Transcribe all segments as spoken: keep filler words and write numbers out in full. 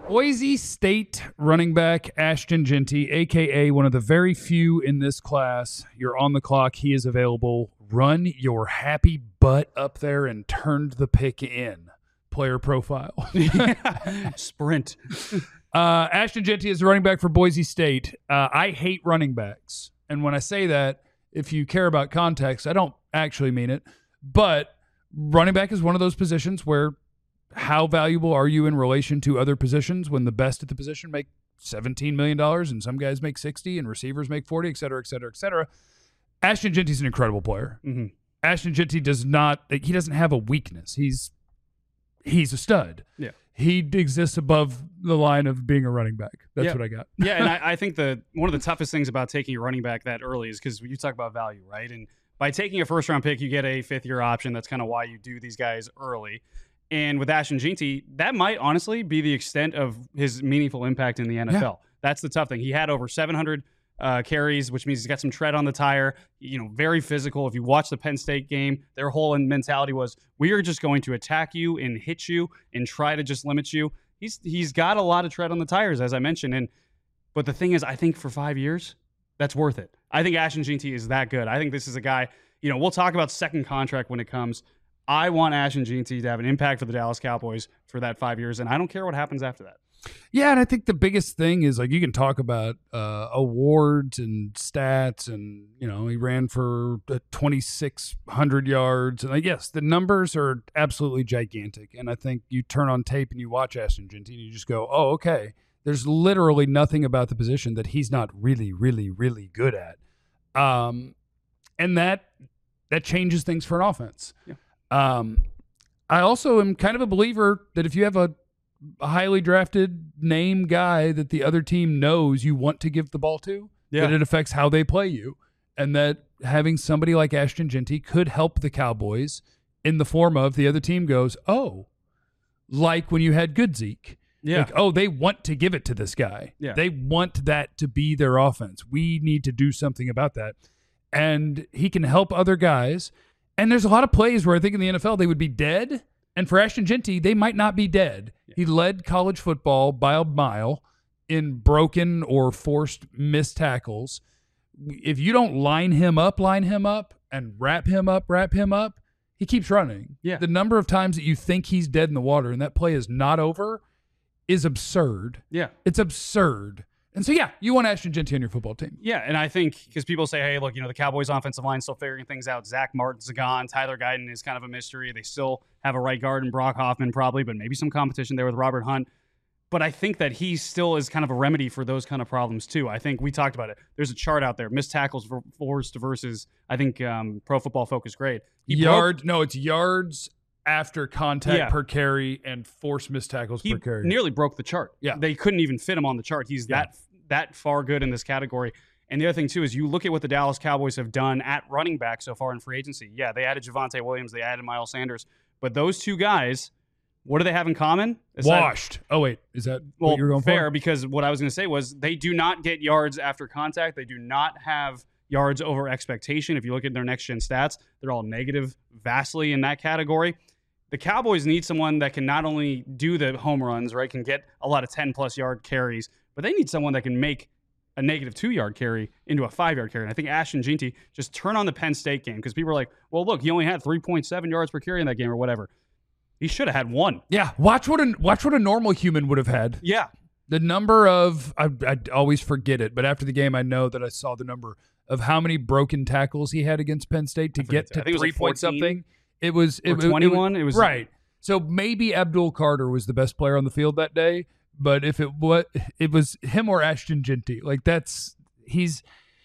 Boise State running back Ashton Jeanty, a k a one of the very few in this class. You're on the clock. He is available. Run your happy butt up there and turn the pick in. Player profile. Sprint. uh, Ashton Jeanty is the running back for Boise State. Uh, I hate running backs. And when I say that, if you care about context, I don't actually mean it. But running back is one of those positions where how valuable are you in relation to other positions when the best at the position make seventeen million dollars and some guys make sixty and receivers make forty, et cetera, et cetera, et cetera. Ashton Jeanty's an incredible player. Mm-hmm. Ashton Jeanty does not, he doesn't have a weakness. He's he's a stud. Yeah. He exists above the line of being a running back. That's yeah. what I got. yeah, and I, I think the one of the toughest things about taking a running back that early is because you talk about value, right? And by taking a first-round pick, you get a fifth-year option. That's kind of why you do these guys early. And with Ashton Jeanty, that might honestly be the extent of his meaningful impact in the N F L. Yeah. That's the tough thing. He had over seven hundred uh, carries, which means he's got some tread on the tire. You know, very physical. If you watch the Penn State game, their whole mentality was, we are just going to attack you and hit you and try to just limit you. He's he's got a lot of tread on the tires, as I mentioned. And but the thing is, I think for five years, that's worth it. I think Ashton Jeanty is that good. I think this is a guy. You know, we'll talk about second contract when it comes. I want Ashton Jeanty to have an impact for the Dallas Cowboys for that five years, and I don't care what happens after that. Yeah, and I think the biggest thing is, like, you can talk about uh, awards and stats, and, you know, he ran for uh, twenty-six hundred yards. And, like, yes, the numbers are absolutely gigantic. And I think you turn on tape and you watch Ashton Jeanty and you just go, oh, okay, there's literally nothing about the position that he's not really, really, really good at. Um, and that that changes things for an offense. Yeah. Um, I also am kind of a believer that if you have a, a highly drafted name guy that the other team knows you want to give the ball to, yeah. that it affects how they play you, and that having somebody like Ashton Jeanty could help the Cowboys in the form of the other team goes, oh, like when you had good Zeke. Yeah. Like, oh, they want to give it to this guy. Yeah. They want that to be their offense. We need to do something about that. And he can help other guys. And there's a lot of plays where I think in the N F L they would be dead. And for Ashton Jeanty, they might not be dead. Yeah. He led college football by a mile in broken or forced missed tackles. If you don't line him up, line him up, and wrap him up, wrap him up, he keeps running. Yeah. The number of times that you think he's dead in the water and that play is not over is absurd. Yeah. It's absurd. And so, yeah, you want Ashton Jeanty on your football team. Yeah, and I think because people say, hey, look, you know, the Cowboys' offensive line still figuring things out. Zach Martin's gone. Tyler Guyton is kind of a mystery. They still have a right guard in Brock Hoffman probably, but maybe some competition there with Robert Hunt. But I think that he still is kind of a remedy for those kind of problems, too. I think we talked about it. There's a chart out there, missed tackles forced versus, I think, um, Pro Football Focus grade. He Yard, broke, no, it's yards after contact yeah. per carry and forced missed tackles he per carry. Nearly broke the chart. Yeah. They couldn't even fit him on the chart. He's yeah. that that far good in this category. And the other thing, too, is you look at what the Dallas Cowboys have done at running back so far in free agency. Yeah, they added Javonte Williams. They added Miles Sanders. But those two guys, what do they have in common? Aside, Washed. Oh, wait. Is that well, what you're going fair, for? Because what I was going to say was they do not get yards after contact. They do not have yards over expectation. If you look at their next-gen stats, they're all negative vastly in that category. The Cowboys need someone that can not only do the home runs, right, can get a lot of ten-plus yard carries, but they need someone that can make a negative two-yard carry into a five-yard carry. And I think Ashton Jeanty, just turn on the Penn State game because people are like, well, look, he only had three point seven yards per carry in that game or whatever. He should have had one. Yeah, watch what a, watch what a normal human would have had. Yeah. The number of, I, I always forget it, but after the game I know that I saw the number of how many broken tackles he had against Penn State to get to three like point something. It was it, twenty-one. It, it, it was right. So maybe Abdul Carter was the best player on the field that day, but if it what it was him or Ashton Jeanty, like that's he's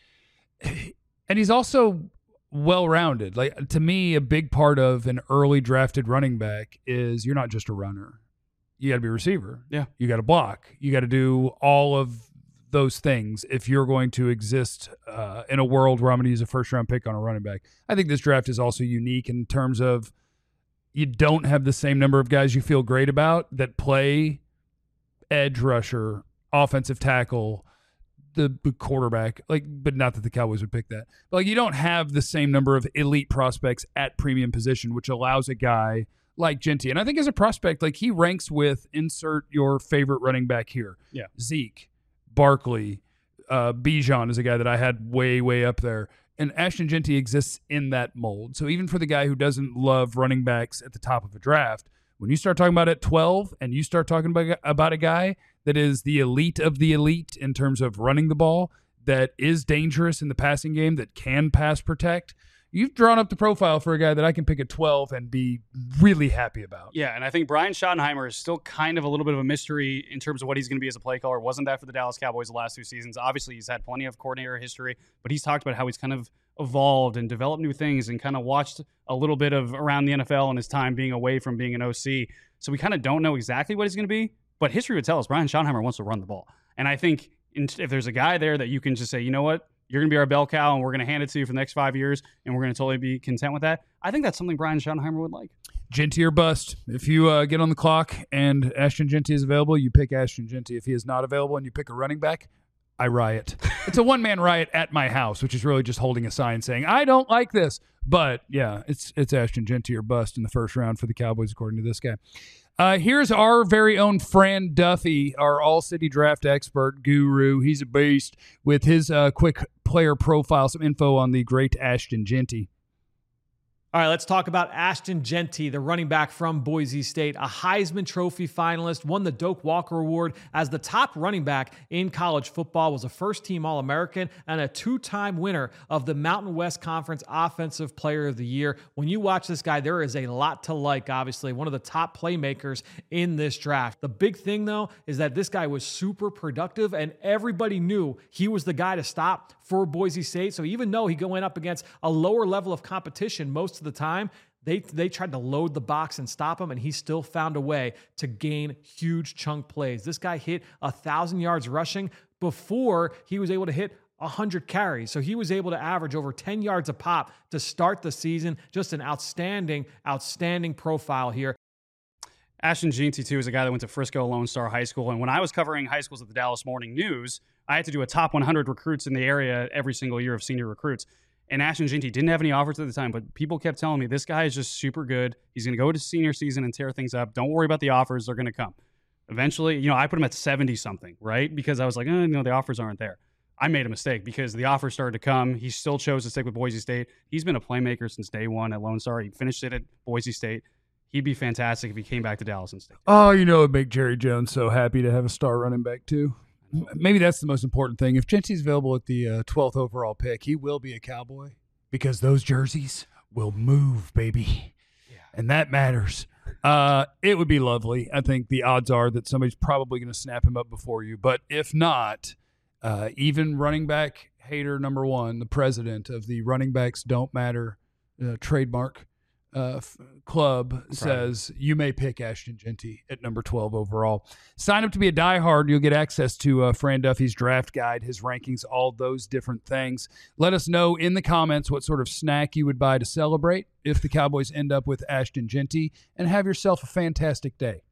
and he's also well-rounded. Like to me, a big part of an early drafted running back is you're not just a runner. You got to be a receiver. Yeah. You got to block. You got to do all of those things if you're going to exist uh, in a world where I'm going to use a first-round pick on a running back. I think this draft is also unique in terms of you don't have the same number of guys you feel great about that play edge rusher, offensive tackle, the quarterback. Like, but not that the Cowboys would pick that. But like, you don't have the same number of elite prospects at premium position, which allows a guy like Jeanty. And I think as a prospect, like he ranks with insert your favorite running back here. Yeah. Zeke, Barkley, uh, Bijan is a guy that I had way, way up there. And Ashton Jeanty exists in that mold. So even for the guy who doesn't love running backs at the top of a draft, when you start talking about at twelve and you start talking about, about a guy that is the elite of the elite in terms of running the ball, that is dangerous in the passing game, that can pass protect, you've drawn up the profile for a guy that I can pick at twelve and be really happy about. Yeah, and I think Brian Schottenheimer is still kind of a little bit of a mystery in terms of what he's going to be as a play caller. Wasn't that for the Dallas Cowboys the last two seasons? Obviously, he's had plenty of coordinator history, but he's talked about how he's kind of evolved and developed new things and kind of watched a little bit of around the N F L in his time being away from being an O C. So we kind of don't know exactly what he's going to be, but history would tell us Brian Schottenheimer wants to run the ball. And I think if there's a guy there that you can just say, you know what, you're going to be our bell cow and we're going to hand it to you for the next five years and we're going to totally be content with that, I think that's something Brian Schottenheimer would like. Jeanty or bust. If you uh, get on the clock and Ashton Jeanty is available, you pick Ashton Jeanty. If he is not available and you pick a running back, I riot. It's a one-man riot at my house, which is really just holding a sign saying, I don't like this. But, yeah, it's it's Ashton Jeanty or bust in the first round for the Cowboys, according to this guy. Uh, here's our very own Fran Duffy, our all-city draft expert guru. He's a beast with his uh, quick player profile, some info on the great Ashton Jeanty. All right, let's talk about Ashton Jeanty, the running back from Boise State, a Heisman Trophy finalist, won the Doak Walker Award as the top running back in college football, was a first-team All-American, and a two-time winner of the Mountain West Conference Offensive Player of the Year. When you watch this guy, there is a lot to like, obviously. One of the top playmakers in this draft. The big thing, though, is that this guy was super productive, and everybody knew he was the guy to stop for Boise State. So even though he went up against a lower level of competition most of the time, they they tried to load the box and stop him, and he still found a way to gain huge chunk plays. This guy hit one thousand yards rushing before he was able to hit one hundred carries. So he was able to average over ten yards a pop to start the season. Just an outstanding, outstanding profile here. Ashton Jeanty, too, is a guy that went to Frisco Lone Star High School. And when I was covering high schools at the Dallas Morning News, I had to do a top one hundred recruits in the area every single year of senior recruits. And Ashton Jeanty didn't have any offers at the time, but people kept telling me, this guy is just super good. He's going to go to senior season and tear things up. Don't worry about the offers. They're going to come. Eventually, you know, I put him at seventy-something, right? Because I was like, oh, no, the offers aren't there. I made a mistake because the offers started to come. He still chose to stick with Boise State. He's been a playmaker since day one at Lone Star. He finished it at Boise State. He'd be fantastic if he came back to Dallas and stayed. Oh, you know, it'd make Jerry Jones so happy to have a star running back, too. Maybe that's the most important thing. If Jeanty's available at the uh, twelfth overall pick, he will be a Cowboy because those jerseys will move, baby. Yeah. And that matters. Uh, it would be lovely. I think the odds are that somebody's probably going to snap him up before you. But if not, uh, even running back hater number one, the president of the Running Backs Don't Matter uh, trademark uh, f- club, says you may pick Ashton Jeanty at number twelve overall. Sign up to be a diehard. You'll get access to uh, Fran Duffy's draft guide, his rankings, all those different things. Let us know in the comments what sort of snack you would buy to celebrate if the Cowboys end up with Ashton Jeanty, and have yourself a fantastic day.